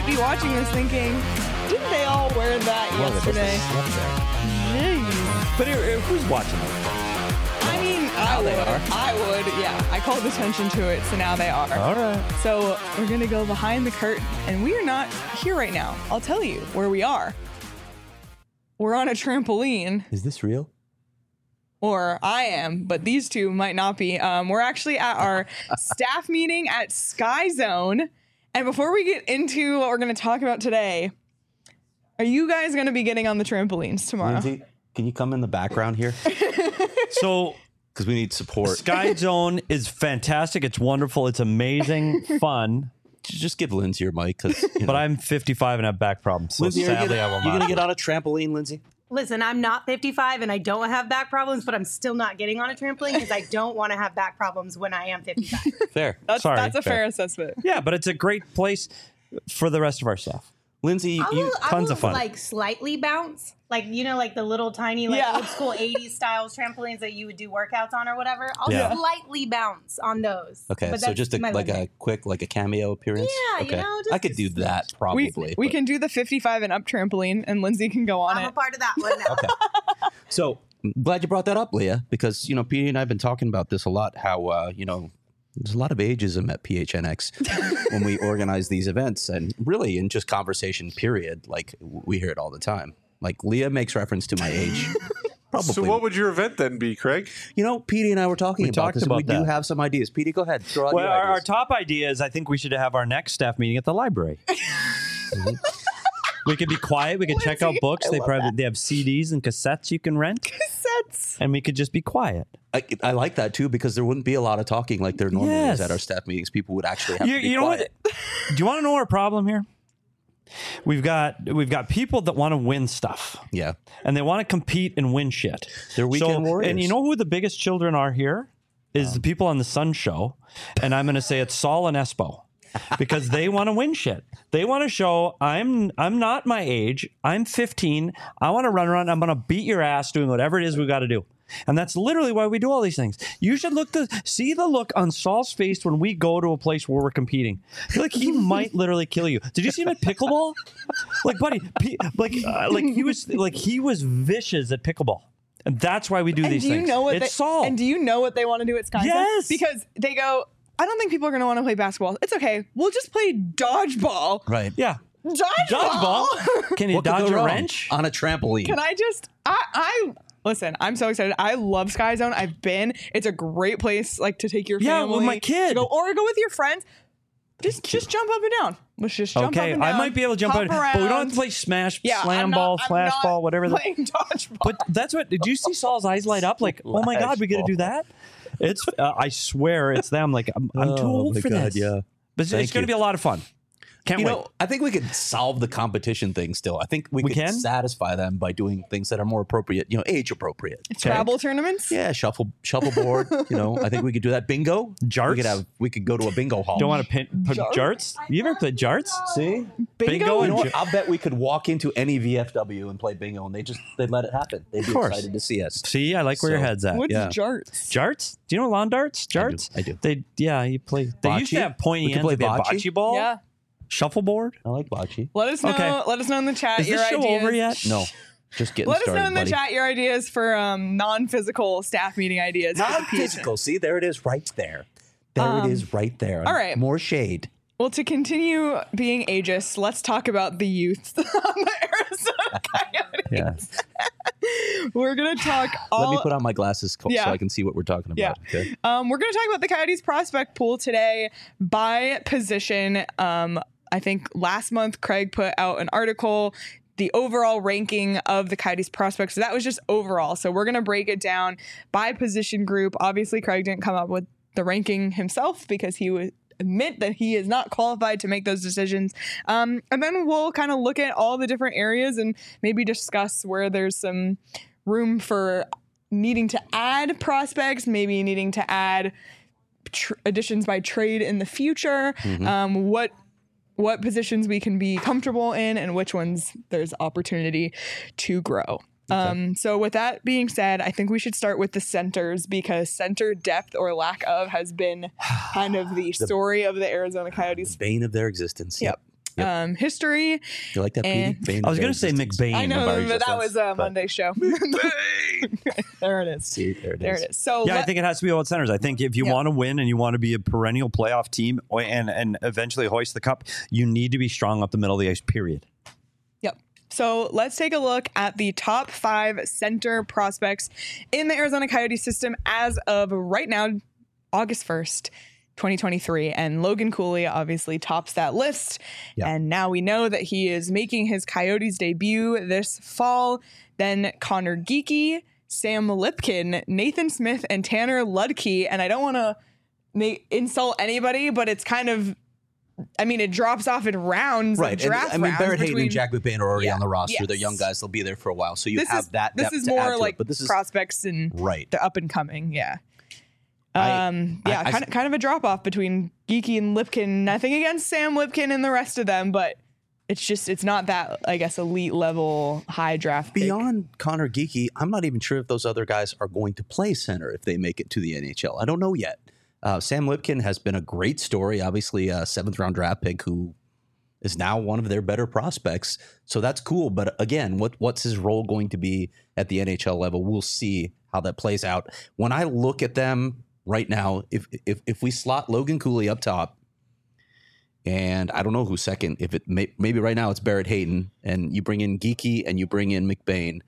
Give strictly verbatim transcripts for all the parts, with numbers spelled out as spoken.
be watching this thinking, didn't they all wear that Well, yesterday? But it, it, who's watching it? I mean, Now I they would. are. I would, yeah. I called attention to it, so now they are. All right. So we're going to go behind the curtain, and we are not here right now. I'll tell you where we are. We're on a trampoline, Is this real? or I am, but these two might not be. Um, we're actually at our staff meeting at Sky Zone. And before we get into what we're going to talk about today, are you guys going to be getting on the trampolines tomorrow? Lindsay, can you come in the background here? So Because we need support. Sky Zone is fantastic. It's wonderful. It's amazing, fun. Just give Lindsay your mic, because. But I'm fifty-five and have back problems. So Lindsay, are you sadly, gonna, I will you not. gonna get on a trampoline, Lindsay? Listen, I'm not fifty-five and I don't have back problems, but I'm still not getting on a trampoline because I don't want to have back problems when I am fifty-five. Fair. That's, Sorry, that's a fair fair. assessment. Yeah, but it's a great place for the rest of our staff. Lindsay, I you, will, I tons will of fun. like slightly bounce, like you know, like the little tiny, like Yeah. old school eighties styles trampolines that you would do workouts on or whatever. I'll Yeah. slightly bounce on those. okay, But so that's just a, my like limit. a quick, like a cameo appearance? Yeah, you okay. know, just- I could do that probably. We, we but- can do the fifty-five and up trampoline, and Lindsay can go on I'm it. a part of that one now. Okay. So I'm glad you brought that up, Leah, because, you know, Petey and I have been talking about this a lot, how, uh, you know, there's a lot of ageism at P H N X when we organize these events, and really in just conversation period, like we hear it all the time. Like Leah makes reference to my age. Probably. So what would your event then be, Craig? You know, Petey and I were talking We about talked this. about we do that. have some ideas. Petey, go ahead. Throw out Well, your our, our ideas. top idea is I think we should have our next staff meeting at the library. We could be quiet. We could check out Lindsay, books. I They love probably they have C Ds and cassettes you can rent, Cassettes. and we could just be quiet. I, I like that too, because there wouldn't be a lot of talking like there normally Yes. is at our staff meetings. People would actually have You, to be you know quiet. what? Do you want to know our problem here? We've got we've got people that want to win stuff. Yeah. And they want to compete and win shit. They're weekend warriors. And you know who the biggest children are here? Is the people on the Sun Show. And I'm going to say it's Saul and Espo. Because they want to win shit. They want to show I'm I'm not my age. I'm fifteen. I want to run around. I'm going to beat your ass doing whatever it is we got to do. And that's literally why we do all these things. You should look to see the look on Saul's face when we go to a place where we're competing. I feel like he might literally kill you. Did you see him at pickleball? Like, buddy, pe- like, uh, like he was like he was vicious at pickleball, and that's why we do And these do you things. know what it's they, Saul. And do you know what they want to do at Sky Zone? Yes. Because they go, I don't think people are going to want to play basketball. It's okay. We'll just play dodgeball. Right. yeah, Dodgeball. dodgeball. Can you What could dodge go a wrong? wrench? On a trampoline. Can I just, I, I, listen, I'm so excited. I love Sky Zone. I've been. It's a great place, like, to take your Yeah, family. with my kid. to go, or go with your friends. Just, just jump up and down. Let's just jump Okay, up and I down. might be able to jump hop out, but we don't have around. to play smash, Yeah, slam I'm ball, not, I'm flash not ball, whatever. The, Playing dodgeball. but that's what. Did you see Saul's eyes light up? Like, oh my god, we got to do that. It's. Uh, I swear, it's them. Like, I'm, I'm too Oh old my for God, this. yeah. But it's, Thank it's going to you. be a lot of fun. Can't You wait. know, I think we could solve the competition thing still. I think we, We could can? satisfy them by doing things that are more appropriate, you know, age appropriate. Scrabble tournaments? Yeah, shuffle shuffleboard. You know, I think we could do that. Bingo. Jarts? We could have. We could go to a bingo hall. Don't want to pin, put Jarts? jarts? You ever played jarts? see. Bingo Bingo? You and know what? jar- I'll bet we could walk into any V F W and play bingo, and they just they'd let it happen. They'd be course. excited to see us. See, I like where your So- head's at. What's yeah. jarts? Jarts? Do you know lawn darts? I do, Jarts? I do. They yeah, you play. They used to Bocce? have pointy We could ends. play They had bocce? bocce ball. Yeah. Shuffleboard. I like bocce. Let us know. Okay. Let us know in the chat Is your this show ideas. over yet? No, just getting Let us started, know in the buddy. chat your ideas for um, non-physical staff meeting ideas. for the Not P H N. physical. See, there it is, right there. There Um, it is, right there. all right. More shade. Well, to continue being ageist, let's talk about the youth on the Arizona Coyotes. Yeah. We're gonna talk all. Let me put on my glasses co- Yeah. so I can see what we're talking about. Yeah. Okay. Um, we're going to talk about the Coyotes prospect pool today by position. Um, I think last month Craig put out an article, the overall ranking of the Coyotes prospects. So that was just overall. So we're going to break it down by position group. Obviously, Craig didn't come up with the ranking himself because he would admit that he is not qualified to make those decisions. Um, and then we'll kind of look at all the different areas and maybe discuss where there's some room for needing to add prospects, maybe needing to add tr- additions by trade in the future, um, what what positions we can be comfortable in and which ones there's opportunity to grow. Um, so with that being said, I think we should start with the centers because center depth or lack of has been kind of the story of the Arizona Coyotes. Bane of their existence. Yep. Yep. um, history. You like that, And- Petey? I was going to say McBain. I know, of our but that existence, was a but- Monday show. There it is. See, there it There is. it is. So Yeah, I let- think it has to be about centers. I think if you Yeah. want to win and you want to be a perennial playoff team or- and and eventually hoist the cup, you need to be strong up the middle of the ice, period. Yep. So let's take a look at the top five center prospects in the Arizona Coyotes system as of right now, August first, twenty twenty-three. And Logan Cooley obviously tops that list. Yeah. And now we know that he is making his Coyotes debut this fall. Then Connor Geekie, Sam Lipkin, Nathan Smith, and Tanner Ludke. And I don't want to ma- insult anybody, but it's kind of, I mean, it drops off in rounds, Right. Of And, draft I mean, rounds Barrett Hayton between- and Jack McBain are already Yeah. on the roster. They're Yes. young guys. They'll be there for a while. So you This have is that this depth is to add more to like it. But this is prospects and right. the up and coming. Yeah. I- Um, I- yeah, I- kind of kind of a drop off between Geeky and Lipkin. Nothing against Sam Lipkin and the rest of them, but it's just it's not that, I guess, elite level high draft pick. Beyond Connor Geeky, I'm not even sure if those other guys are going to play center if they make it to the N H L. I don't know yet. Uh, Sam Lipkin has been a great story, obviously a seventh round draft pick who is now one of their better prospects. So that's cool. But again, what what's his role going to be at the N H L level? We'll see how that plays out. When I look at them right now, if if if we slot Logan Cooley up top, and I don't know who's second. If it may, maybe right now it's Barrett Hayton, and you bring in Geeky and you bring in McBain.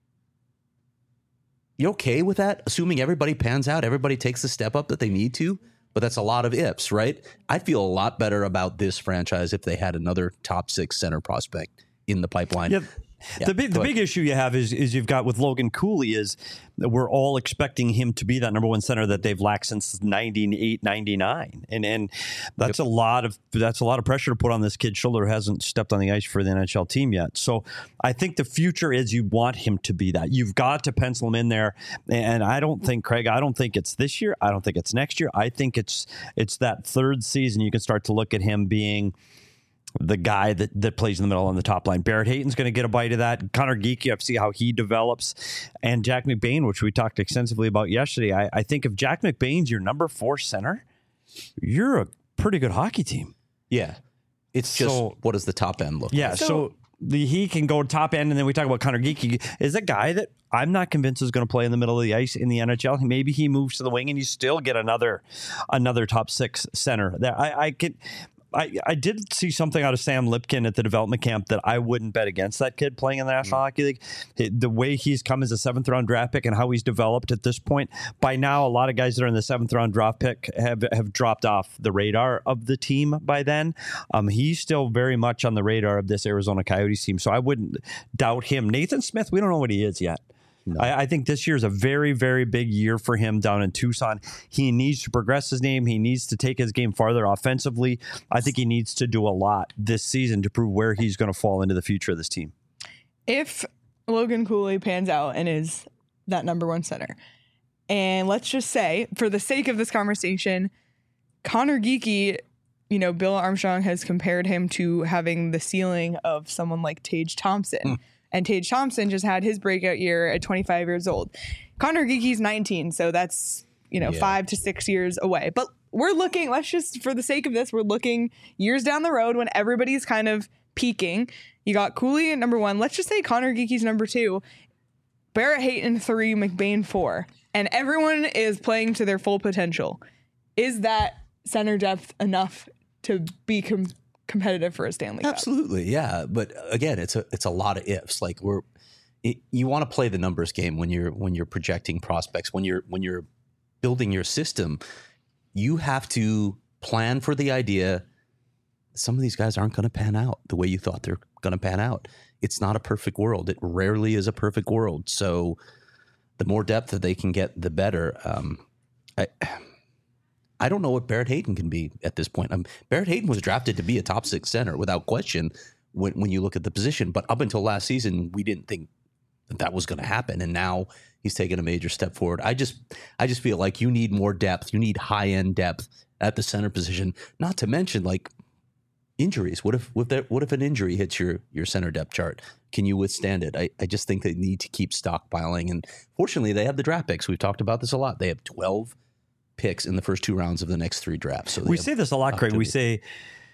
You okay with that? Assuming everybody pans out, everybody takes the step up that they need to, but that's a lot of ifs, right? I'd feel a lot better about this franchise if they had another top six center prospect in the pipeline. Yeah. Yeah, the big go the ahead. big issue you have is is you've got with Logan Cooley is that we're all expecting him to be that number one center that they've lacked since ninety-eight, ninety-nine. And and that's a lot of that's a lot of pressure to put on this kid's shoulder who hasn't stepped on the ice for the N H L team yet. So I think the future is you want him to be that. You've got to pencil him in there. And I don't think, Craig, I don't think it's this year. I don't think it's next year. I think it's it's that third season you can start to look at him being the guy that, that plays in the middle on the top line. Barrett Hayton's going to get a bite of that. Connor Geeky, you have to see how he develops. And Jack McBain, which we talked extensively about yesterday. I, I think if Jack McBain's your number four center, you're a pretty good hockey team. Yeah. It's just So- what does the top end look Yeah, like? so, the, he can go top end, and then we talk about Connor Geeky is a guy that I'm not convinced is going to play in the middle of the ice in the N H L. Maybe he moves to the wing, and you still get another another top six center. There, I, I could. I, I did see something out of Sam Lipkin at the development camp that I wouldn't bet against that kid playing in the National Mm. Hockey League. It- the way he's come as a seventh round draft pick and how he's developed at this point. By now, a lot of guys that are in the seventh round draft pick have, have dropped off the radar of the team by then. Um, he's still very much on the radar of this Arizona Coyotes team, so I wouldn't doubt him. Nathan Smith, we don't know what he is yet. I, I think this year is a very, very big year for him down in Tucson. He needs to progress his game. He needs to take his game farther offensively. I think he needs to do a lot this season to prove where he's going to fall into the future of this team. If Logan Cooley pans out and is that number one center, and let's just say, for the sake of this conversation, Connor Geeky, you know, Bill Armstrong has compared him to having the ceiling of someone like Tage Thompson. Hmm. And Tage Thompson just had his breakout year at twenty-five years old. Connor Geeky's nineteen, so that's, you know, Yeah. five to six years away. But we're looking, let's just, for the sake of this, we're looking years down the road when everybody's kind of peaking. You got Cooley at number one. Let's just say Connor Geeky's number two. Barrett Hayton three, McBain four. And everyone is playing to their full potential. Is that center depth enough to be com- competitive for a Stanley Cup? Absolutely, yeah. But again, it's a it's a lot of ifs. Like we're it, you want to play the numbers game when you're when you're projecting prospects, when you're when you're building your system. You have to plan for the idea. Some of these guys aren't going to pan out the way you thought they're going to pan out. It's not a perfect world. It rarely is a perfect world. So the more depth that they can get, the better. Um, I. I don't know what Barrett Hayton can be at this point. Um, Barrett Hayton was drafted to be a top six center without question when, when you look at the position. But up until last season, we didn't think that, that was going to happen. And now he's taken a major step forward. I just I just feel like you need more depth. You need high end depth at the center position. Not to mention like injuries. What if what if, there, what if an injury hits your your center depth chart? Can you withstand it? I, I just think they need to keep stockpiling. And fortunately, they have the draft picks. We've talked about this a lot. They have twelve picks in the first two rounds of the next three drafts. So they We have say this a lot, Craig. We opportunity. say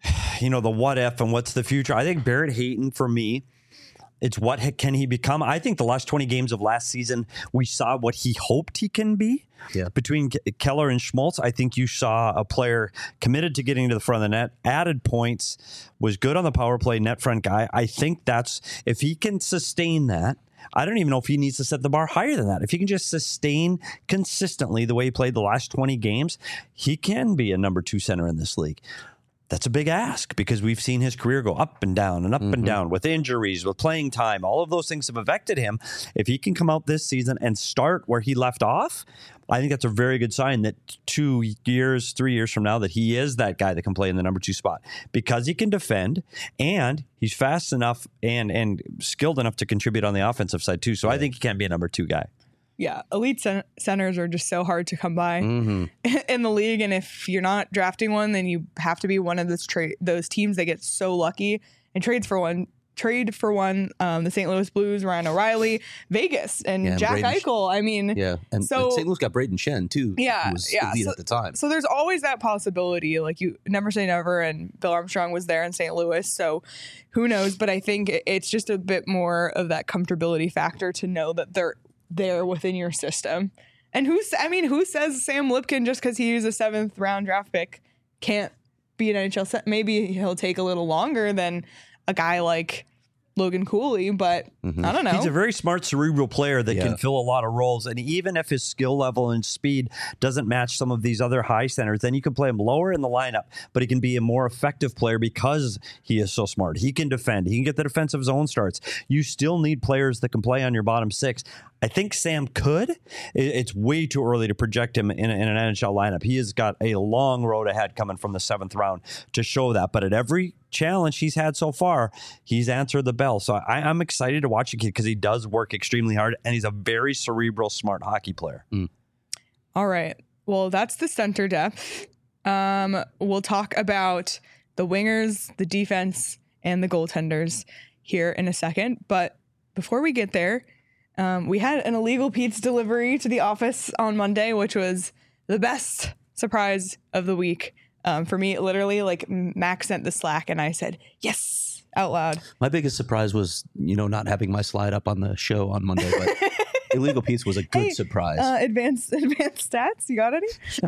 you know, the what if and what's the future. I think Barrett Hayton, for me, it's what can he become? I think the last twenty games of last season, we saw what he hoped he can be. Yeah. Between Keller and Schmaltz, I think you saw a player committed to getting to the front of the net, added points, was good on the power play, net front guy. I think that's, if he can sustain that, I don't even know if he needs to set the bar higher than that. If he can just sustain consistently the way he played the last twenty games, he can be a number two center in this league. That's a big ask because we've seen his career go up and down and up mm-hmm. and down with injuries, with playing time. All of those things have affected him. If he can come out this season and start where he left off, I think that's a very good sign that two years, three years from now, that he is that guy that can play in the number two spot because he can defend and he's fast enough and and skilled enough to contribute on the offensive side too. So yeah. I think he can be a number two guy. Yeah, elite cen- centers are just so hard to come by mm-hmm. in the league, and if you're not drafting one, then you have to be one of those tra- those teams that get so lucky and trades for one. Trade for one. Um, the Saint Louis Blues, Ryan O'Reilly, Vegas, and, yeah, and Jack Braden Eichel. I mean, yeah, and, so, and Saint Louis got Braden Shen too. Yeah, who was yeah. elite So, at the time. So there's always that possibility. Like you never say never, and Bill Armstrong was there in Saint Louis, so who knows? But I think it's just a bit more of that comfortability factor to know that they're there within your system. And who's, I mean, who says Sam Lipkin, just because he was a seventh round draft pick, can't be an N H L set? Maybe he'll take a little longer than a guy like Logan Cooley, but mm-hmm. I don't know. He's a very smart, cerebral player that yeah. can fill a lot of roles. And even if his skill level and speed doesn't match some of these other high centers, then you can play him lower in the lineup, but he can be a more effective player because he is so smart. He can defend. He can get the defensive zone starts. You still need players that can play on your bottom six. I think Sam could. It's way too early to project him in, in an N H L lineup. He has got a long road ahead coming from the seventh round to show that. But at every challenge he's had so far, he's answered the bell. So I, I'm excited to watch the kid because he does work extremely hard and he's a very cerebral, smart hockey player. Mm. All right. Well, that's the center depth. Um, we'll talk about the wingers, the defense, and the goaltenders here in a second. But before we get there, Um, we had an illegal pizza delivery to the office on Monday, which was the best surprise of the week. Um, for me, literally, like Max sent the Slack and I said, yes, out loud. My biggest surprise was, you know, not having my slide up on the show on Monday, but illegal pizza was a good hey, surprise. Uh, advanced advanced stats, you got any?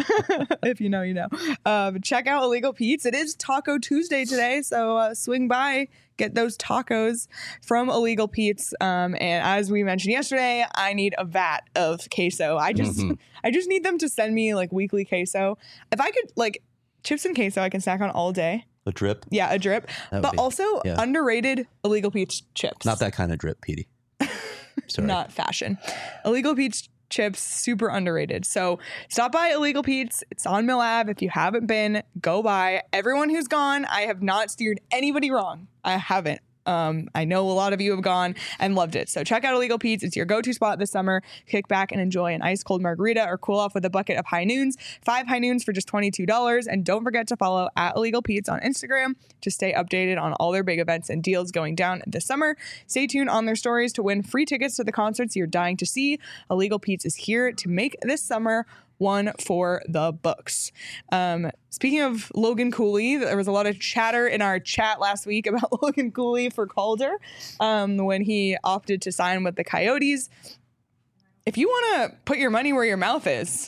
If you know, you know. Um, check out Illegal Pete's. It is Taco Tuesday today, so uh, swing by, get those tacos from Illegal Pete's. Um, and as we mentioned yesterday, I need a vat of queso. I just, mm-hmm. I just need them to send me like weekly queso. If I could, like chips and queso, I can snack on all day. A drip, yeah, a drip. But be, also yeah. underrated Illegal Pete's chips. Not that kind of drip, Petey. Sorry. Not fashion. Illegal Pete's chips, super underrated. So stop by Illegal Pete's. It's on Mill Ave. If you haven't been, go by. Everyone who's gone, I have not steered anybody wrong. I haven't. Um, I know a lot of you have gone and loved it. So check out Illegal Pete's. It's your go-to spot this summer. Kick back and enjoy an ice cold margarita or cool off with a bucket of High Noons. Five High Noons for just twenty-two dollars. And don't forget to follow at Illegal Pete's on Instagram to stay updated on all their big events and deals going down this summer. Stay tuned on their stories to win free tickets to the concerts you're dying to see. Illegal Pete's is here to make this summer one for the books. Um, speaking of Logan Cooley, there was a lot of chatter in our chat last week about Logan Cooley for Calder um, when he opted to sign with the Coyotes. If you want to put your money where your mouth is,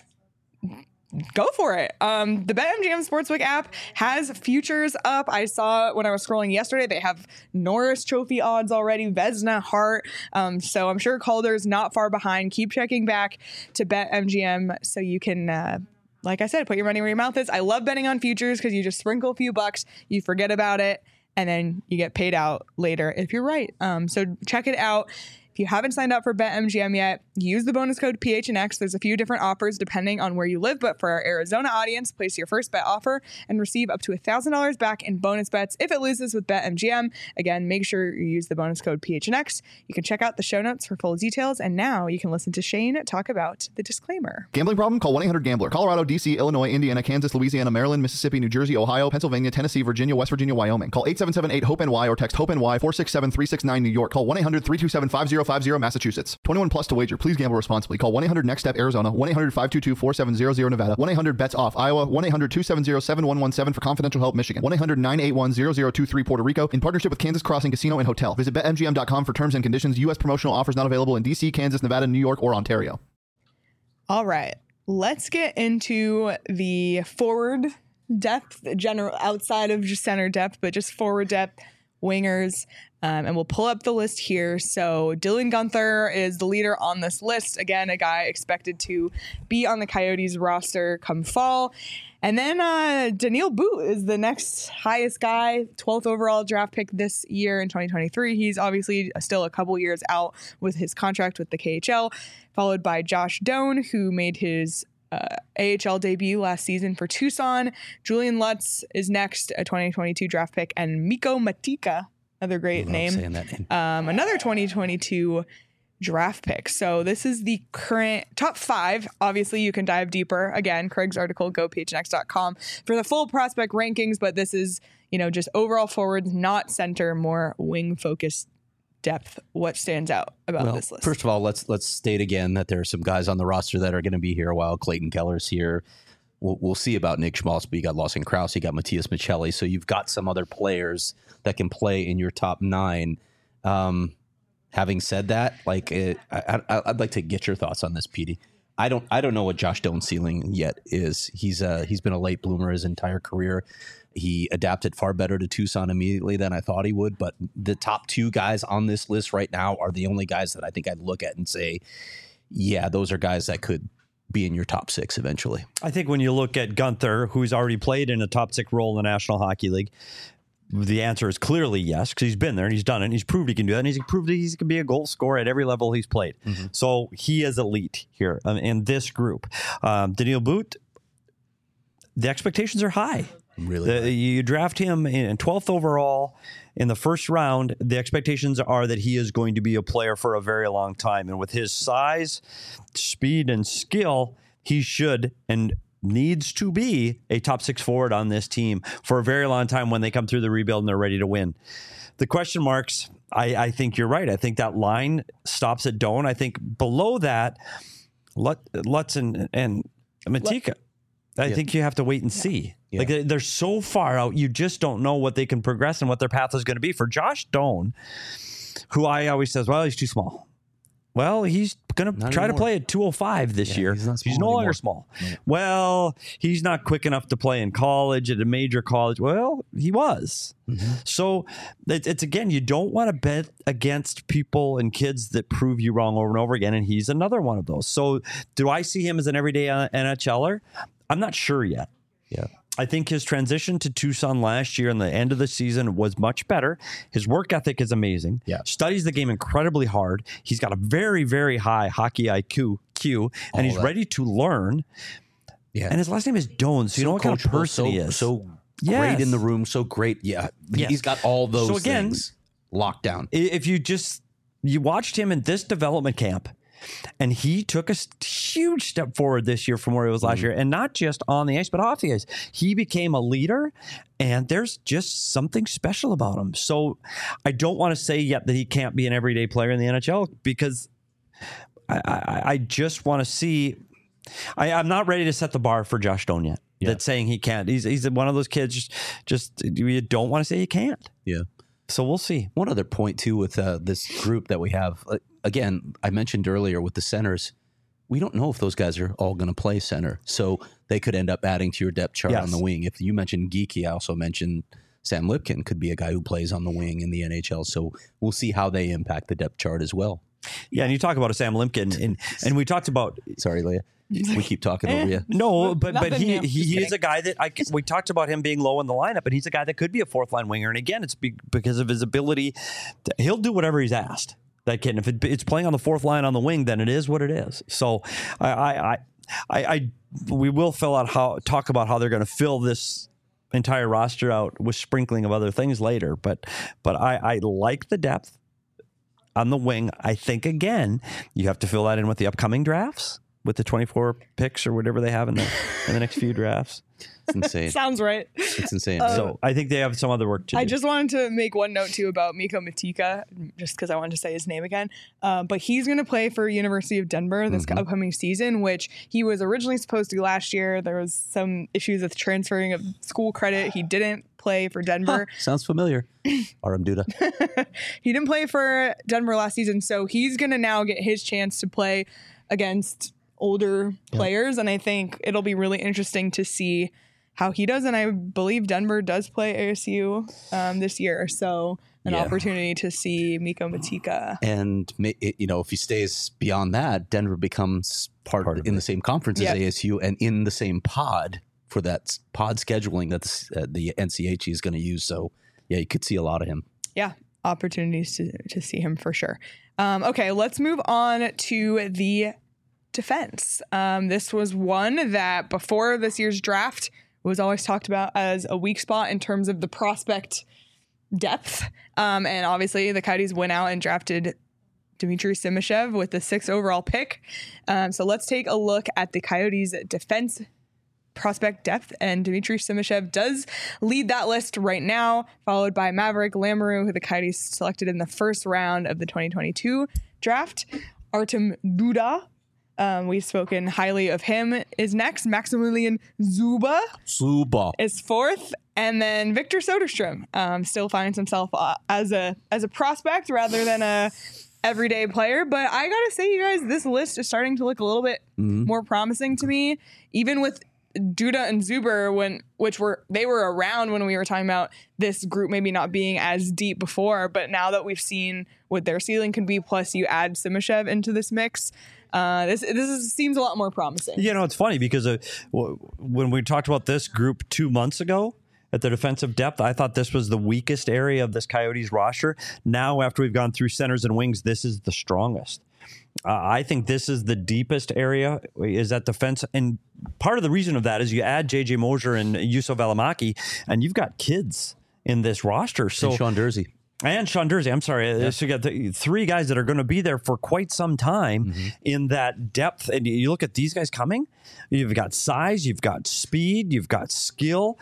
go for it. Um, the BetMGM Sportsbook app has futures up. I saw when I was scrolling yesterday, they have Norris Trophy odds already, Vezina, Hart. Um, so I'm sure Calder's not far behind. Keep checking back to BetMGM so you can, uh, like I said, put your money where your mouth is. I love betting on futures because you just sprinkle a few bucks, you forget about it, and then you get paid out later if you're right. Um, so check it out. If you haven't signed up for BetMGM yet, use the bonus code P H N X. There's a few different offers depending on where you live, but for our Arizona audience, place your first bet offer and receive up to one thousand dollars back in bonus bets if it loses with BetMGM. Again, make sure you use the bonus code P H N X. You can check out the show notes for full details, and now you can listen to Shane talk about the disclaimer. Gambling problem? Call one eight hundred gambler. Colorado, D C, Illinois, Indiana, Kansas, Louisiana, Maryland, Mississippi, New Jersey, Ohio, Pennsylvania, Tennessee, Virginia, West Virginia, Wyoming. Call eight seven seven eight, HOPE-N-Y or text HOPE-N-Y four six seven three six nine New York. Call one eight hundred three two seven five zero five zero, Massachusetts. twenty-one plus to wager. Please gamble responsibly. Call one eight hundred next step Arizona, one eight hundred five two two four seven zero zero Nevada, one eight hundred bets off Iowa, one eight hundred two seven zero seven one one seven for confidential help Michigan, one eight hundred nine eight one zero zero two three Puerto Rico, in partnership with Kansas Crossing Casino and Hotel. Visit bet M G M dot com for terms and conditions. U S promotional offers not available in D C, Kansas, Nevada, New York, or Ontario. All right, let's get into the forward depth, general outside of just center depth, but just forward depth, wingers. Um, and we'll pull up the list here. So Dylan Guenther is the leader on this list. Again, a guy expected to be on the Coyotes roster come fall. And then uh, Daniil Boot is the next highest guy, twelfth overall draft pick this year in twenty twenty-three. He's obviously still a couple years out with his contract with the K H L, followed by Josh Doan, who made his Uh, A H L debut last season for Tucson. Julian Lutz is next, a twenty twenty-two draft pick, and Mikko Matika, another great name, saying that name. Um, another twenty twenty-two draft pick. So this is the current top five. Obviously, you can dive deeper. Again, Craig's article, go P H N X dot com for the full prospect rankings, but this is, you know, just overall forward, not center, more wing focused depth. What stands out about Well, this list? first of all, let's let's state again that there are some guys on the roster that are going to be here a while. Clayton Keller's here. We'll, we'll see about Nick Schmaltz, but you got Lawson Krause, you got Matthias Michelli, so you've got some other players that can play in your top nine. Um, having said that, like it, I, I, I'd like to get your thoughts on this, Petey. I don't I don't know what Josh Doan's ceiling yet is. He's uh he's been a late bloomer his entire career. He adapted far better to Tucson immediately than I thought he would. But the top two guys on this list right now are the only guys that I think I'd look at and say, yeah, those are guys that could be in your top six eventually. I think when you look at Guenther, who's already played in a top six role in the National Hockey League, the answer is clearly yes, because he's been there and he's done it and he's proved he can do that, and he's proved he can be a goal scorer at every level he's played. Mm-hmm. So he is elite here um, in this group. Um, Daniil Boot, the expectations are high. Really, the, you draft him in twelfth overall in the first round. The expectations are that he is going to be a player for a very long time, and with his size, speed, and skill, he should and needs to be a top six forward on this team for a very long time when they come through the rebuild and they're ready to win. The question marks, I, I think you're right. I think that line stops at Doan. I think below that, Lutz and, and Matika. I yeah. think you have to wait and see. Yeah. Like they're so far out, you just don't know what they can progress and what their path is going to be. For Josh Doan, who I always says, well, he's too small. Well, he's going to try anymore. to play at two oh five this yeah, year. He's, not he's no anymore. longer small. Yeah. Well, he's not quick enough to play in college at a major college. Well, he was. Mm-hmm. So it, it's, again, you don't want to bet against people and kids that prove you wrong over and over again, and he's another one of those. So do I see him as an everyday NHLer? I'm not sure yet. Yeah. I think his transition to Tucson last year and the end of the season was much better. His work ethic is amazing. Yeah. Studies the game incredibly hard. He's got a very, very high hockey I Q, Q and All he's that. ready to learn. Yeah. And his last name is Doan, so, so you know what kind of person so, he is. So yes. great in the room, so great. Yeah. Yes. He's got all those so again, things locked down. If you just, you watched him in this development camp, and he took a huge step forward this year from where he was last mm-hmm. year, and not just on the ice, but off the ice. He became a leader, and there's just something special about him. So I don't want to say yet that he can't be an everyday player in the N H L, because I, I, I just want to see. I, I'm not ready to set the bar for Josh Doan yet. Yeah. That's saying he can't. He's he's one of those kids. Just, just you don't want to say he can't. Yeah. So we'll see. One other point too with uh, this group that we have. Uh, again, I mentioned earlier with the centers, we don't know if those guys are all going to play center, so they could end up adding to your depth chart yes. on the wing. If you mentioned Geeky, I also mentioned Sam Lipkin could be a guy who plays on the wing in the N H L. So we'll see how they impact the depth chart as well. Yeah, and you talk about a Sam Lipkin, and and we talked about. Sorry, Leah. We keep talking over you. No, but but he new. he, he is a guy that I we talked about him being low in the lineup, and he's a guy that could be a fourth line winger. And again, it's be, because of his ability. To, he'll do whatever he's asked. That kid, and if it, it's playing on the fourth line on the wing, then it is what it is. So I I I, I, I we will fill out how talk about how they're going to fill this entire roster out with sprinkling of other things later. But but I, I like the depth on the wing. I think again you have to fill that in with the upcoming drafts. with the twenty-four picks or whatever they have in the in the next few drafts. It's insane. Sounds right. It's insane. So I think they have some other work to do. I just wanted to make one note too about Miko Matika, just because I wanted to say his name again. Uh, but he's going to play for University of Denver this Mm-hmm. upcoming season, which he was originally supposed to last year. There was some issues with transferring of school credit. He didn't play for Denver. Sounds familiar. R M Duda. He didn't play for Denver last season, so he's going to now get his chance to play against older players, and I think it'll be really interesting to see how he does. And I believe Denver does play A S U um, this year, so an Yeah. opportunity to see Miko Matika. And ma- it, you know, if he stays beyond that, Denver becomes part, Part of in it. the same conference Yeah. as A S U and in the same pod for that s- pod scheduling that the, s- uh, the N C H E is going to use. So yeah, you could see a lot of him. Yeah, opportunities to, to see him for sure. Um, okay, let's move on to the defense. Um, this was one that before this year's draft was always talked about as a weak spot in terms of the prospect depth. Um, and obviously the Coyotes went out and drafted Dmitry Simashev with the sixth overall pick. Um, so let's take a look at the Coyotes defense prospect depth, and Dmitry Simashev does lead that list right now, followed by Maverick Lamoureux, who the Coyotes selected in the first round of the twenty twenty-two draft. Artem Duda, um, we've spoken highly of him, is next. Maximilian Zuba Suba. is fourth, and then Victor Soderstrom um, still finds himself uh, as a as a prospect rather than a everyday player. But I gotta say, you guys, this list is starting to look a little bit more promising to me, even with Duda and Zuber, when which were they were around when we were talking about this group maybe not being as deep before, but now that we've seen what their ceiling can be, plus you add Simashev into this mix, uh, this this is, seems a lot more promising. You know, it's funny because uh, w- when we talked about this group two months ago at the defensive depth, I thought this was the weakest area of this Coyotes roster. Now, after we've gone through centers and wings, this is the strongest. Uh, I think this is the deepest area is that defense. And part of the reason of that is you add J J Mosier and Yusuf Alamaki, and you've got kids in this roster. So And Sean Dursey. And Sean Dursey, I'm sorry. So you got the three guys that are going to be there for quite some time Mm-hmm. in that depth. And you look at these guys coming, you've got size, you've got speed, you've got skill.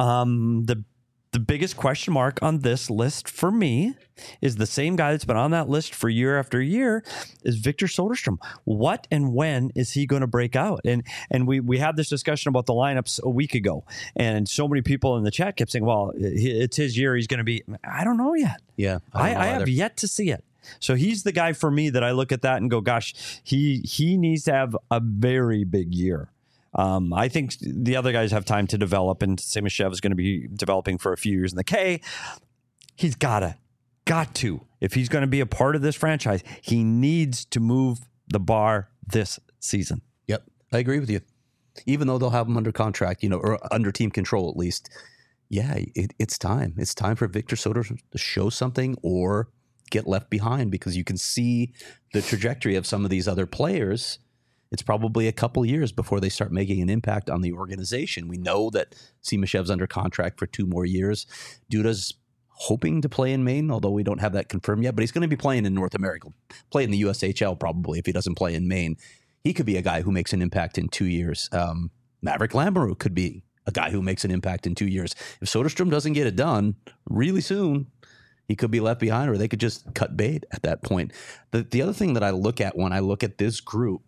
Um, the the biggest question mark on this list for me is the same guy that's been on that list for year after year is Victor Soderstrom. What and when is he going to break out? And and we we had this discussion about the lineups a week ago, and so many people in the chat kept saying, well, it's his year. He's going to be, I don't know yet. Yeah. I, don't know I have either. yet to see it. So he's the guy for me that I look at that and go, gosh, he he needs to have a very big year. Um, I think the other guys have time to develop, and Simashev is going to be developing for a few years in the K. He's gotta, got to. If he's going to be a part of this franchise, he needs to move the bar this season. Yep, I agree with you. Even though they'll have him under contract, you know, or under team control at least. Yeah, it, it's time. It's time for Victor Soderstrom to show something or get left behind, because you can see the trajectory of some of these other players. It's probably a couple years before they start making an impact on the organization. We know that Simashev's under contract for two more years. Duda's hoping to play in Maine, although we don't have that confirmed yet, but he's going to be playing in North America, play in the U S H L probably if he doesn't play in Maine. He could be a guy who makes an impact in two years. Um, Maverick Lamoureux could be a guy who makes an impact in two years. If Soderstrom doesn't get it done really soon, he could be left behind, or they could just cut bait at that point. The, the other thing that I look at when I look at this group,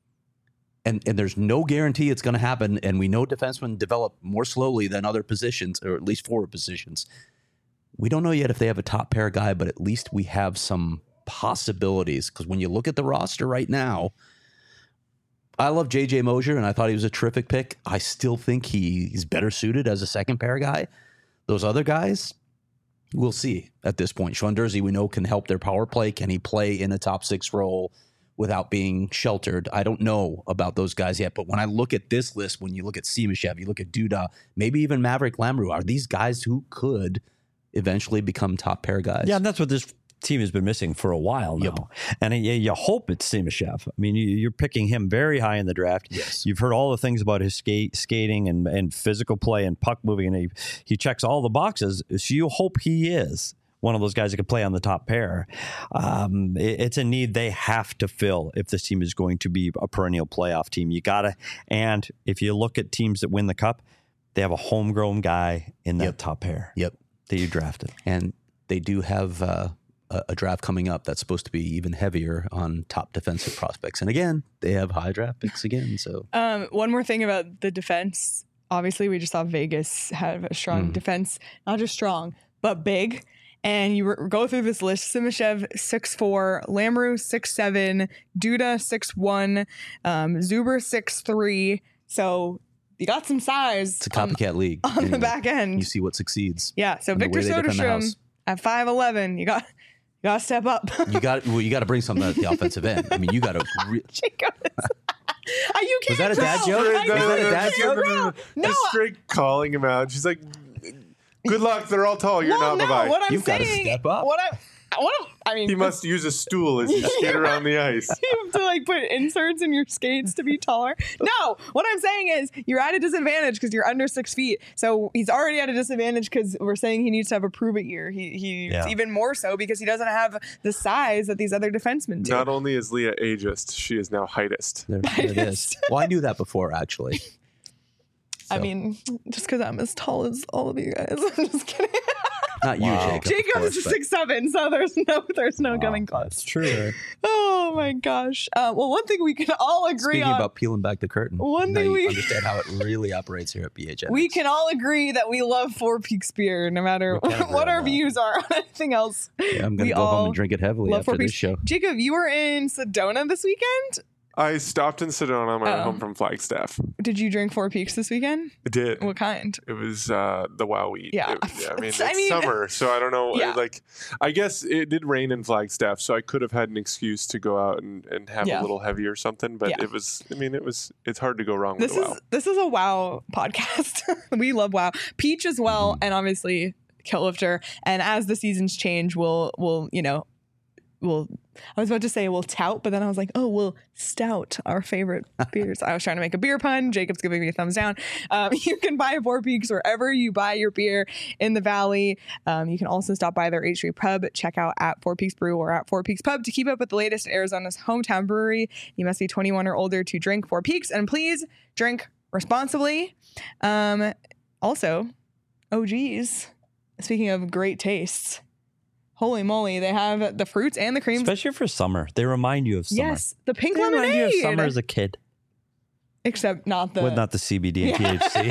and, and there's no guarantee it's going to happen, and we know defensemen develop more slowly than other positions, or at least forward positions. We don't know yet if they have a top pair guy, but at least we have some possibilities. Because when you look at the roster right now, I love J J Mosier, and I thought he was a terrific pick. I still think he, he's better suited as a second pair guy. Those other guys, we'll see at this point. Sean Dursey, we know, can help their power play. Can he play in a top six role without being sheltered? I don't know about those guys yet. But when I look at this list, when you look at Simashev, you look at Duda, maybe even Maverick Lamoureux, are these guys who could eventually become top pair guys? Yeah, and that's what this team has been missing for a while now. Yep. And you, you hope it's Simashev. I mean, you, you're picking him very high in the draft. Yes. You've heard all the things about his skate, skating and, and physical play and puck moving, and he, he checks all the boxes. So you hope he is one of those guys that could play on the top pair. Um, it, it's a need they have to fill if this team is going to be a perennial playoff team. You gotta, and if you look at teams that win the cup, they have a homegrown guy in that Yep. top pair. Yep. That you drafted. And they do have uh, a, a draft coming up that's supposed to be even heavier on top defensive prospects. And again, they have high draft picks again. So Um, one more thing about the defense. Obviously, we just saw Vegas have a strong Mm. defense, not just strong, but big. And you re- go through this list: Simashev six four, Lamru six seven, Duda six one, um, Zuber six three. So you got some size it's a copycat league. on, on the And back end. You see what succeeds. Yeah. So and the Victor way they defend the Soderstrom house. at five eleven. You got you got to step up. You got well, you got to bring something at the offensive end. I mean, you got to. Re- Jacob. Uh, you can't Was that a dad grow. joke? I Was know that a you dad can't joke? grow. No, Just straight calling him out. She's like, "Good luck. They're all tall. You're well, not. no. Bye-bye." What I'm You've gotta saying, step up. what I, what I'm, I mean, He must use a stool as you skate around the ice. you have to like put inserts in your skates to be taller. No, what I'm saying is you're at a disadvantage because you're under six feet. So he's already at a disadvantage because we're saying he needs to have a prove it year. He he's Yeah. even more so because he doesn't have the size that these other defensemen do. Not only is Leah ageist, she is now heightist. there, there it is. Well, I knew that before, actually. I So, mean, just because I'm as tall as all of you guys. I'm just kidding. not you, Wow. Jacob. of Jacob course, is but- six seven, so there's no there's no coming close. That's true. Oh my gosh. Uh, well, one thing we can all agree Speaking on. about peeling back the curtain, One now thing you we- understand how it really operates here at B H N. We can all agree that we love Four Peaks beer, no matter We can agree what on our that. views are on anything else. Yeah, I'm going we to go home all and drink it heavily love after Four this Peaks. show. Jacob, you were in Sedona this weekend. I stopped in Sedona on my way Oh. home from Flagstaff. Did you drink Four Peaks this weekend? I did. What kind? It was uh, the Wow Wheat. Yeah. It- I mean, it's I mean- summer, so I don't know. Yeah. Like, I guess it did rain in Flagstaff, so I could have had an excuse to go out and, and have Yeah. a little heavy or something. But Yeah. it was. I mean, it was. It's hard to go wrong This with is Wow. this is a WoW podcast. We love WoW. Peach as well, Mm-hmm. and obviously Kiltlifter. And as the seasons change, we'll we'll you know we'll. I was about to say we'll tout, but then I was like, oh, we'll stout our favorite beers. I was trying to make a beer pun. Jacob's giving me a thumbs down. Um, you can buy Four Peaks wherever you buy your beer in the Valley. Um, you can also stop by their H Street Pub. Check out at Four Peaks Brew or at Four Peaks Pub to keep up with the latest at Arizona's hometown brewery. You must be twenty-one or older to drink Four Peaks, and please drink responsibly. Um, also, O Gs. Speaking of great tastes, holy moly, they have the fruits and the creams. Especially for summer. They remind you of summer. Yes, the pink They remind lemonade. you of summer as a kid. Except not the. With not the C B D and T H C.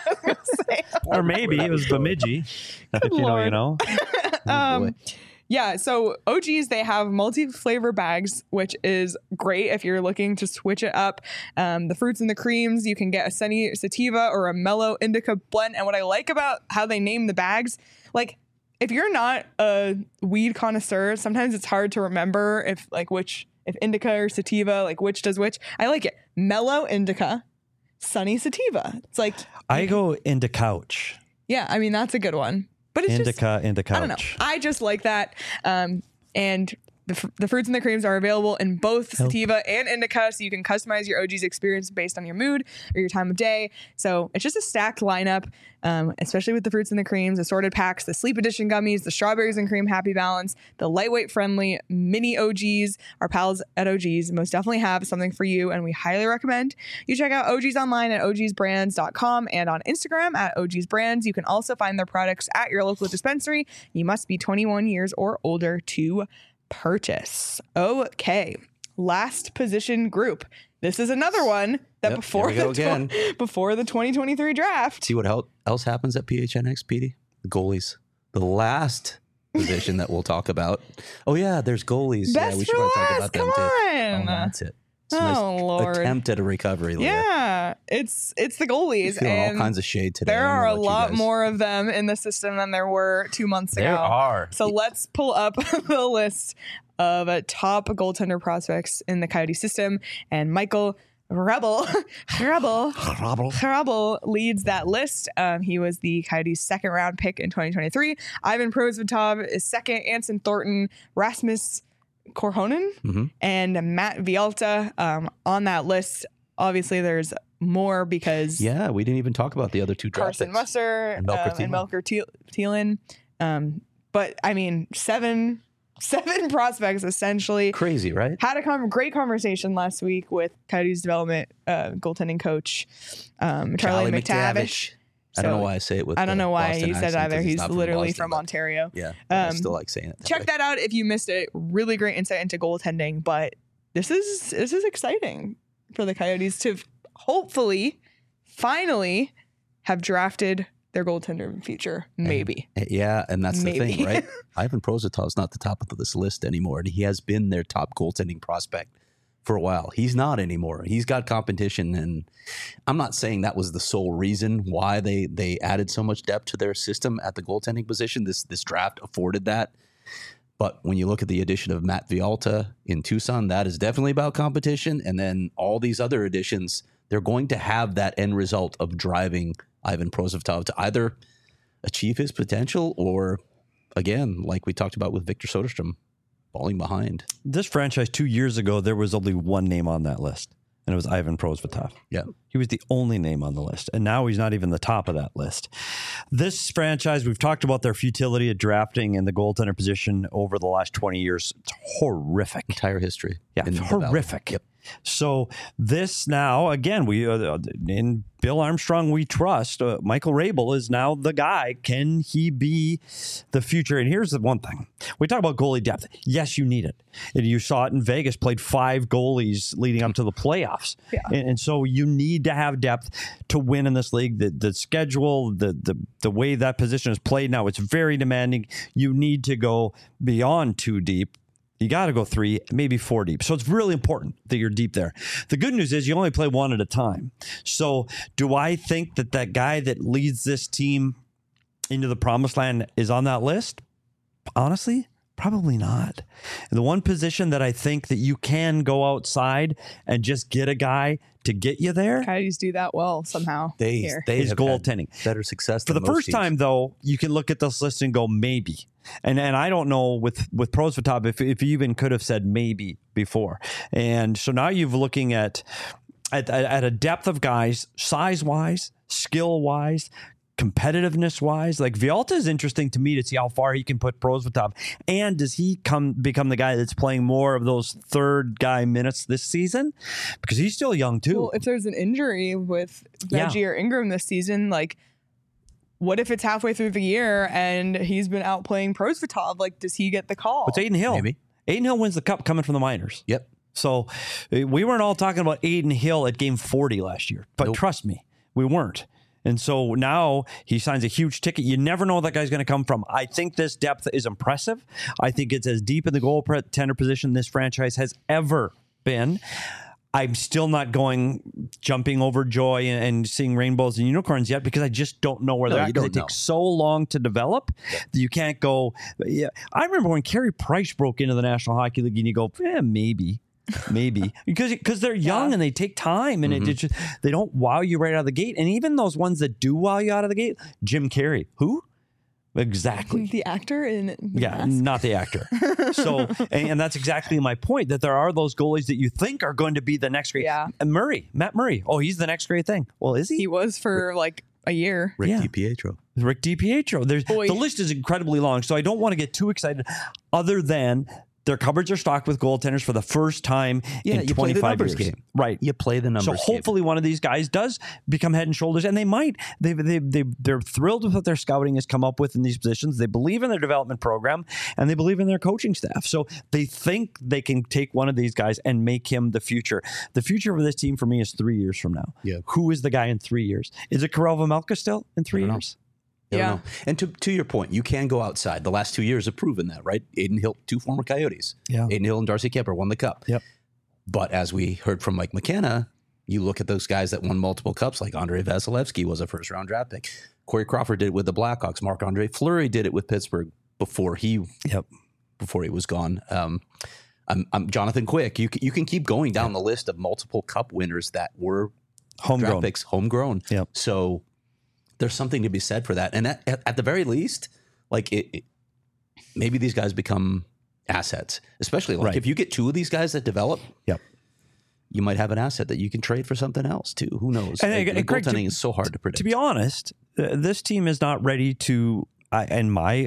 Or maybe it was Bemidji. If you know, you Lord. know. Oh, um, boy. yeah, so O Gs, they have multi-flavor bags, which is great if you're looking to switch it up. Um, the fruits and the creams, you can get a sunny sativa or a mellow indica blend. And what I like about how they name the bags, like if you're not a weed connoisseur, sometimes it's hard to remember if like which, if indica or sativa, like which does which. I like it. Mellow indica, sunny sativa. It's like, I go into couch. yeah, I mean, that's a good one. But it's just, Indica into couch. I don't know. I just like that. Um, and the, fr- the fruits and the creams are available in both sativa and indica, so you can customize your O G's experience based on your mood or your time of day. So it's just a stacked lineup, um, especially with the fruits and the creams, assorted packs, the sleep edition gummies, the strawberries and cream happy balance, the lightweight friendly mini O Gs. Our pals at O G's most definitely have something for you, and we highly recommend you check out O G's online at O Gs brands dot com and on Instagram at O Gs brands. You can also find their products at your local dispensary. You must be twenty-one years or older to purchase. Okay, last position group. This is another one that Yep, before here we go the again. tw- before the twenty twenty-three draft. See what hel- else happens at P H N X, Petey? The goalies. The last position that we'll talk about. Oh yeah, there's goalies. Best yeah, we should for probably talk last. about them Come too. on. Oh, that's it. It's a Oh, nice Lord. attempt at a recovery. Leah. Yeah, it's it's the You're goalies, feeling all and kinds of shade today. there I don't are know a about you lot guys. more of them in the system than there were two months There ago. are. So let's pull up the list of uh, top goaltender prospects in the Coyote system, and Michael Rebel, Rebel, Rebel leads that list. Um, he was the Coyotes' second round pick in twenty twenty-three. Ivan Prosvetov is second. Anson Thornton, Rasmus Korhonen, Mhm. and Matt Vialta um, on that list. Obviously, there's more because Yeah, we didn't even talk about the other two draft Carson picks. Musser And Melker um, and Thielen. Melker Thiel- Thielen. Um, but I mean, seven seven prospects essentially. Crazy, right? Had a com- great conversation last week with Coyotes development uh, goaltending coach um, Charlie, Charlie McTavish. McTavish. I don't know why I say it with. I don't the know why Boston you said accent, either. 'cause He's not literally Boston, from but- Ontario. Yeah, but I Um, still like saying it. that Check way. that out if you missed it. Really great insight into goaltending, but this is this is exciting for the Coyotes to hopefully, finally, have drafted their goaltender in the future. Maybe. Yeah, and that's the Maybe. thing, right? Ivan Prozitov's not the top of this list anymore, and he has been their top goaltending prospect for a while. He's not anymore. He's got competition, and I'm not saying that was the sole reason why they they added so much depth to their system at the goaltending position. This this draft afforded that. But when you look at the addition of Matt Vialta in Tucson, that is definitely about competition. And then all these other additions, they're going to have that end result of driving Ivan Prosvetov to either achieve his potential or, again, like we talked about with Victor Soderstrom, falling behind. This franchise two years ago, there was only one name on that list, and it was Ivan Prosvetov. Yeah. He was the only name on the list, and now he's not even the top of that list. This franchise, we've talked about their futility of drafting in the goaltender position over the last twenty years. It's horrific. Entire history. Yeah, in the horrific. Valley. Yep. So this now, again, we uh, in Bill Armstrong we trust. Uh, Michael Rabel is now the guy. Can he be the future? And here's the one thing. We talk about goalie depth. Yes, you need it. And you saw it in Vegas, played five goalies leading up to the playoffs. Yeah. And, and so you need to have depth to win in this league. The, the schedule, the, the, the way that position is played now, it's very demanding. You need to go beyond two deep. You got to go three, maybe four deep. So it's really important that you're deep there. The good news is you only play one at a time. So do I think that that guy that leads this team into the promised land is on that list? Honestly, probably not. And the one position that I think that you can go outside and just get a guy to get you there Coyotes do that well somehow. They, here. they is have had goaltending. better success For the than most first teams. time, though, you can look at this list and go, maybe. And and I don't know with, with Prosvetov if, if you even could have said maybe before. And so now you're looking at, at, at a depth of guys, size-wise, skill-wise, competitiveness-wise. Like, Vialta is interesting to me to see how far he can put Prosvetov. And does he come become the guy that's playing more of those third guy minutes this season? Because he's still young, too. Well, if there's an injury with Yeah. Veggie or Ingram this season, like, what if it's halfway through the year and he's been out playing Prosvetov? Like, does he get the call? It's Aiden Hill. Maybe. Aiden Hill wins the cup coming from the minors. Yep. So uh, we weren't all talking about Aiden Hill at game forty last year, but Nope. trust me, we weren't. And so now he signs a huge ticket. You never know where that guy's going to come from. I think this depth is impressive. I think it's as deep in the goaltender position this franchise has ever been. I'm still not going jumping over joy and, and seeing rainbows and unicorns yet because I just don't know where No, they're at. you 'cause don't it know. takes so long to develop that you can't go. Yeah, I remember when Carey Price broke into the National Hockey League, and you go, eh, maybe. Maybe because because they're young Yeah. and they take time and Mm-hmm. it, it just they don't wow you right out of the gate. And even those ones that do wow you out of the gate, Jim Carrey, who exactly the actor in The yeah, Mask? not the actor. So, and, and that's exactly my point, that there are those goalies that you think are going to be the next great. Yeah. And Murray, Matt Murray. Oh, he's the next great thing. Well, is he? He was for like a year. Rick Yeah. DiPietro. Rick DiPietro. There's Boy. the list is incredibly long, so I don't want to get too excited. Other than their cupboards are stocked with goaltenders for the first time Yeah, in you play the twenty-five numbers years. game. Right. You play the numbers So game. hopefully one of these guys does become head and shoulders, and they might. They they they they're thrilled with what their scouting has come up with in these positions. They believe in their development program, and they believe in their coaching staff. So they think they can take one of these guys and make him the future. The future of this team for me is three years from now. Yeah. Who is the guy in three years? Is it Karel Vejmelka still in three I don't know. years? I don't Yeah. know. And to, to your point, you can go outside. The last two years have proven that, right? Aiden Hill, two former Coyotes. Yeah. Aiden Hill and Darcy Kemper won the cup. Yep. But as we heard from Mike McKenna, you look at those guys that won multiple cups, like Andrei Vasilevsky was a first round draft pick. Corey Crawford did it with the Blackhawks. Marc-Andre Fleury did it with Pittsburgh before he Yep. before he was gone. Um, I'm, I'm Jonathan Quick. You can, you can keep going down the list of multiple cup winners that were Homegrown. draft picks, homegrown. Yep. So there's something to be said for that. And at, at, at the very least, like it, it, maybe these guys become assets, especially like Right. if you get two of these guys that develop, Yep. you might have an asset that you can trade for something else too. Who knows? And, Like, and the Greg, goaltending to- is so hard to predict. To be honest, uh, this team is not ready to, uh, in my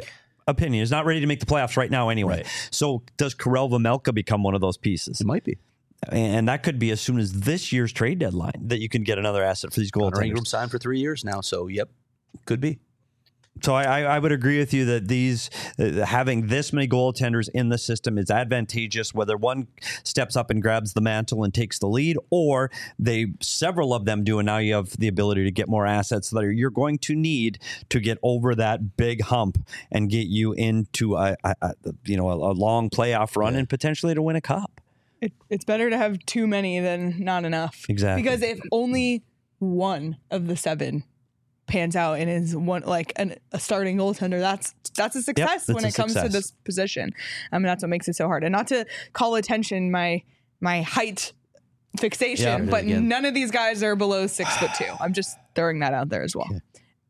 opinion, is not ready to make the playoffs right now anyway. Right. So does Karel Vejmelka become one of those pieces? It might be. And that could be as soon as this year's trade deadline that you can get another asset for these Connor goaltenders. Ingram signed for three years now, so yep, could be. So I, I, I would agree with you that these uh, having this many goaltenders in the system is advantageous. Whether one steps up and grabs the mantle and takes the lead, or they several of them do, and now you have the ability to get more assets that are, you're going to need to get over that big hump and get you into a, a, a you know a, a long playoff run yeah. and potentially to win a cup. It, it's better to have too many than not enough. Exactly. Because if only one of the seven pans out and is one like an, a starting goaltender, that's that's a success yep, that's when a it comes success. to this position. I mean, that's what makes it so hard. And not to call attention my my height fixation, Yeah, but again. none of these guys are below six foot two. I'm just throwing that out there as well. Yeah.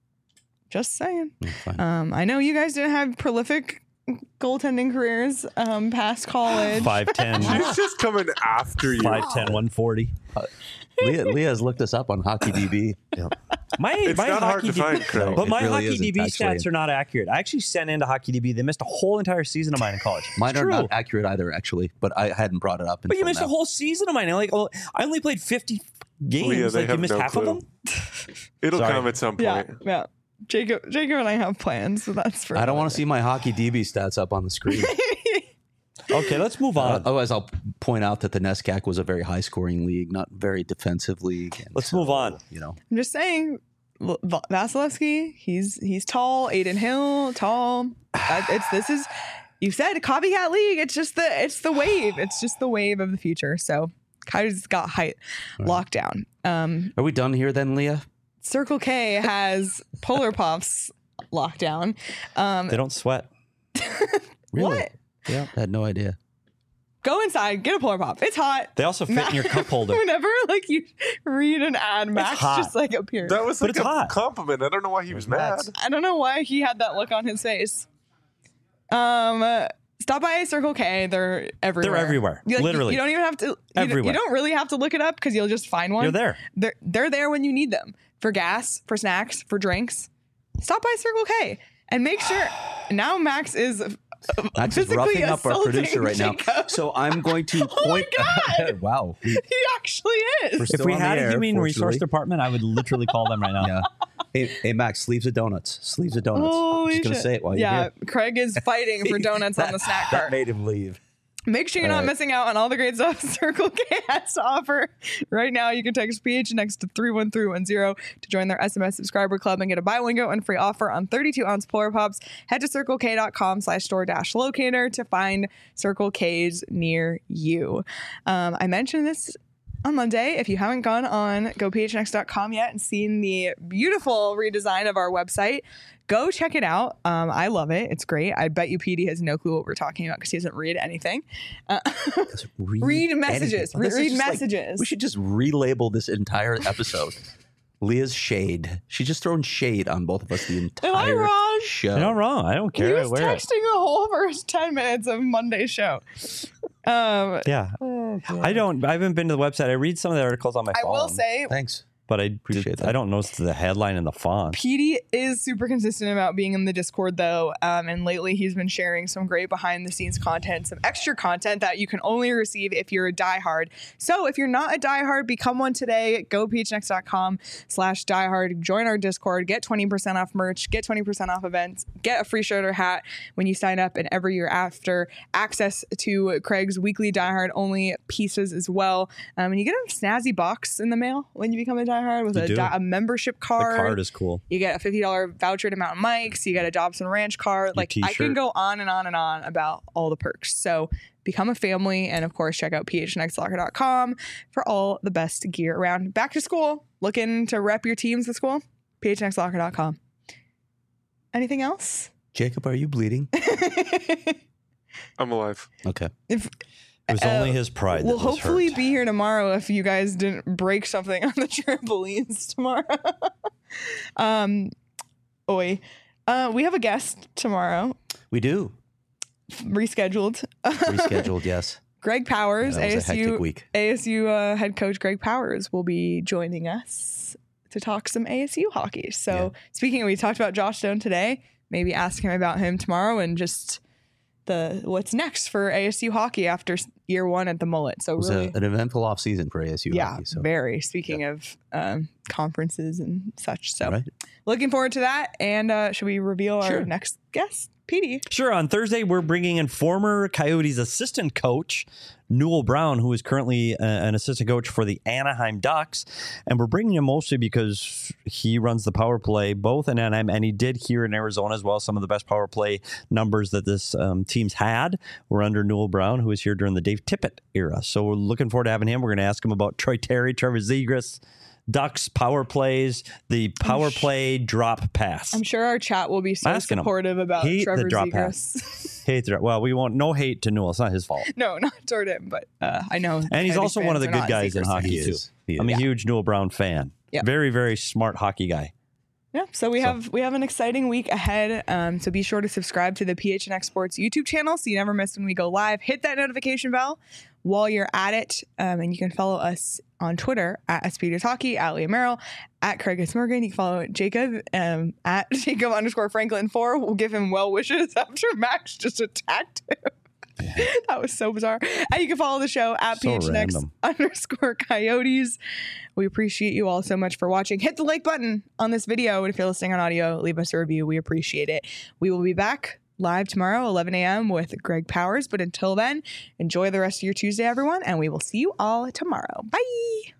Just saying. Fine. Um, I know you guys didn't have prolific goaltending careers um, past college. five ten, She's just coming after you. five ten, one forty Leah, Leah's looked us up on Hockey D B. My, It's my not hard hockey to D B, find, Craig. but It my really hockey isn't, D B actually. stats are not accurate. I actually sent into Hockey D B. They missed a whole entire season of mine in college. Mine It's are true. not accurate either, actually, but I hadn't brought it up until But you missed now. a whole season of mine. Like, well, I only played fifty games. Leah, they like you have missed no half clue. of them. It'll Sorry. come at some Yeah, point. yeah. Jacob, Jacob and I have plans, so that's for. I don't want another to see my Hockey D B stats up on the screen. Okay, let's move Uh, on. otherwise, I'll point out that the NESCAC was a very high-scoring league, not very defensive league. and Let's so, move on. You know, I'm just saying, L- Va- Vasilevsky, he's he's tall. Aiden Hill, tall. That, it's this is, you said copycat league. It's just the it's the wave. It's just the wave of the future. So Kai's got height locked down. Um, are we done here then, Leah? Circle K has Polar Puffs locked down. Um, They don't sweat. Really? What? Yeah, I had no idea. Go inside, get a Polar Pop. It's hot. They also fit in your cup holder. Whenever like you read an ad, Max hot. just like appears. That was But like it's a hot. compliment. I don't know why he was mad. Max. I don't know why he had that look on his face. Um, uh, stop by Circle K. They're everywhere. They're everywhere. You, like, you- Literally. you don't even have to. You, don't- you Everywhere. don't really have to look it up because you'll just find one. You're there. They're they're there when you need them for gas, for snacks, for drinks. Stop by Circle K and make sure. Now Max is. Max is physically roughing up our assaulting producer right now. Jacob. So I'm going to Oh my point. God. Wow. We- He actually is. We're If still we on the had a air, human resource fortunately. department, I would literally call them right now. Yeah. Hey, hey, Max, sleeves of donuts. Sleeves of donuts. I'm Holy just going to shit. say it while you're yeah, here. Craig is fighting for donuts on the snack That cart. made him leave. Make sure you're All not right. missing out on all the great stuff Circle K has to offer. Right now, you can text P H N X to three one three one zero to join their S M S subscriber club and get a buy one, get one free offer on thirty-two ounce Polar Pops. Head to circlek.com slash store dash locator to find Circle K's near you. Um, I mentioned this on Monday. If you haven't gone on go p h n x dot com yet and seen the beautiful redesign of our website, go check it out. Um, I love it. It's great. I bet you Petey has no clue what we're talking about because he doesn't read anything. Uh, Read, Read messages. anything. This is Read just like- messages. we should just relabel this entire episode. Leah's shade. She's just throwing shade on both of us the Am I entire wrong? show. You're not wrong. I don't he care. I was wear it. texting the whole first ten minutes of Monday's show. Um, Yeah. I don't. I haven't been to the website. I read some of the articles on my I phone. will say, Thanks. but I Appreciate that. I don't notice the headline and the font. Petey is super consistent about being in the Discord, though. Um, and lately, he's been sharing some great behind the scenes content, some extra content that you can only receive if you're a diehard. So if you're not a diehard, become one today. Go p h n x dot com slash diehard. Join our Discord. Get twenty percent off merch. Get twenty percent off events. Get a free shirt or hat when you sign up. And every year after, access to Craig's weekly diehard only pieces as well. Um, and you get a snazzy box in the mail when you become a diehard with You a, do. di- a membership The card. card is cool. You get a fifty dollars voucher to Mountain Mike's. You get a Dobson Ranch card. Like, I can t-shirt. go on and on and on about all the perks. So become a family. And of course, check out p h n x locker dot com for all the best gear around. Back to school. Looking to rep your teams at school? p h n x locker dot com. Anything else? Jacob, are you bleeding? I'm alive. Okay. If It was Uh, only his pride. We'll that was hopefully hurt. be here tomorrow if you guys didn't break something on the trampolines tomorrow. um, oi. Uh, we have a guest tomorrow, We do. rescheduled. Rescheduled, yes. Greg Powers, That was a hectic A S U week. A S U uh, head coach Greg Powers will be joining us to talk some A S U hockey. So Yeah. speaking of, we talked about Josh Stone today. maybe ask him about him tomorrow and just the what's next for A S U hockey after year one at the Mullet. So It was really, a, an eventful off season for A S U yeah, hockey. So. very. Speaking of um, conferences and such, so Right. looking forward to that. And uh, should we reveal Sure. our next guest, Petey? Sure. On Thursday, we're bringing in former Coyotes assistant coach, Newell Brown, who is currently uh, an assistant coach for the Anaheim Ducks. And we're bringing him mostly because he runs the power play both in Anaheim and he did here in Arizona as well. Some of the best power play numbers that this um, team's had were under Newell Brown, who was here during the Dave Tippett era. So we're looking forward to having him. We're going to ask him about Troy Terry, Trevor Zegras, Ducks power plays, the power play drop pass. I'm sure our chat will be so Asking him. supportive about Hate the Trevor drop Zegras. Hate the, well, we won't, no hate to Newell. It's not his fault. No, not toward him, but uh, I know. And he's Coyotes also one of fans the are good not guys in Zegras hockey, He too. is. He is. I'm a huge Newell Brown fan. Yeah. Very, very smart hockey guy. Yeah, so we have we have an exciting week ahead. Um, so be sure to subscribe to the P H N X Sports YouTube channel so you never miss when we go live. Hit that notification bell while you're at it, um, and you can follow us on Twitter at Speeders Hockey, at Leah Merrill, at Craig S. Morgan. You can follow Jacob um, at Jacob underscore Franklin four. We'll give him well wishes after Max just attacked him. That was so bizarre. And you can follow the show at So P H N X random. underscore Coyotes. We appreciate you all so much for watching. Hit the like button on this video. And if you're listening on audio, leave us a review. We appreciate it. We will be back live tomorrow, eleven a.m. with Greg Powers. But until then, enjoy the rest of your Tuesday, everyone. And we will see you all tomorrow. Bye.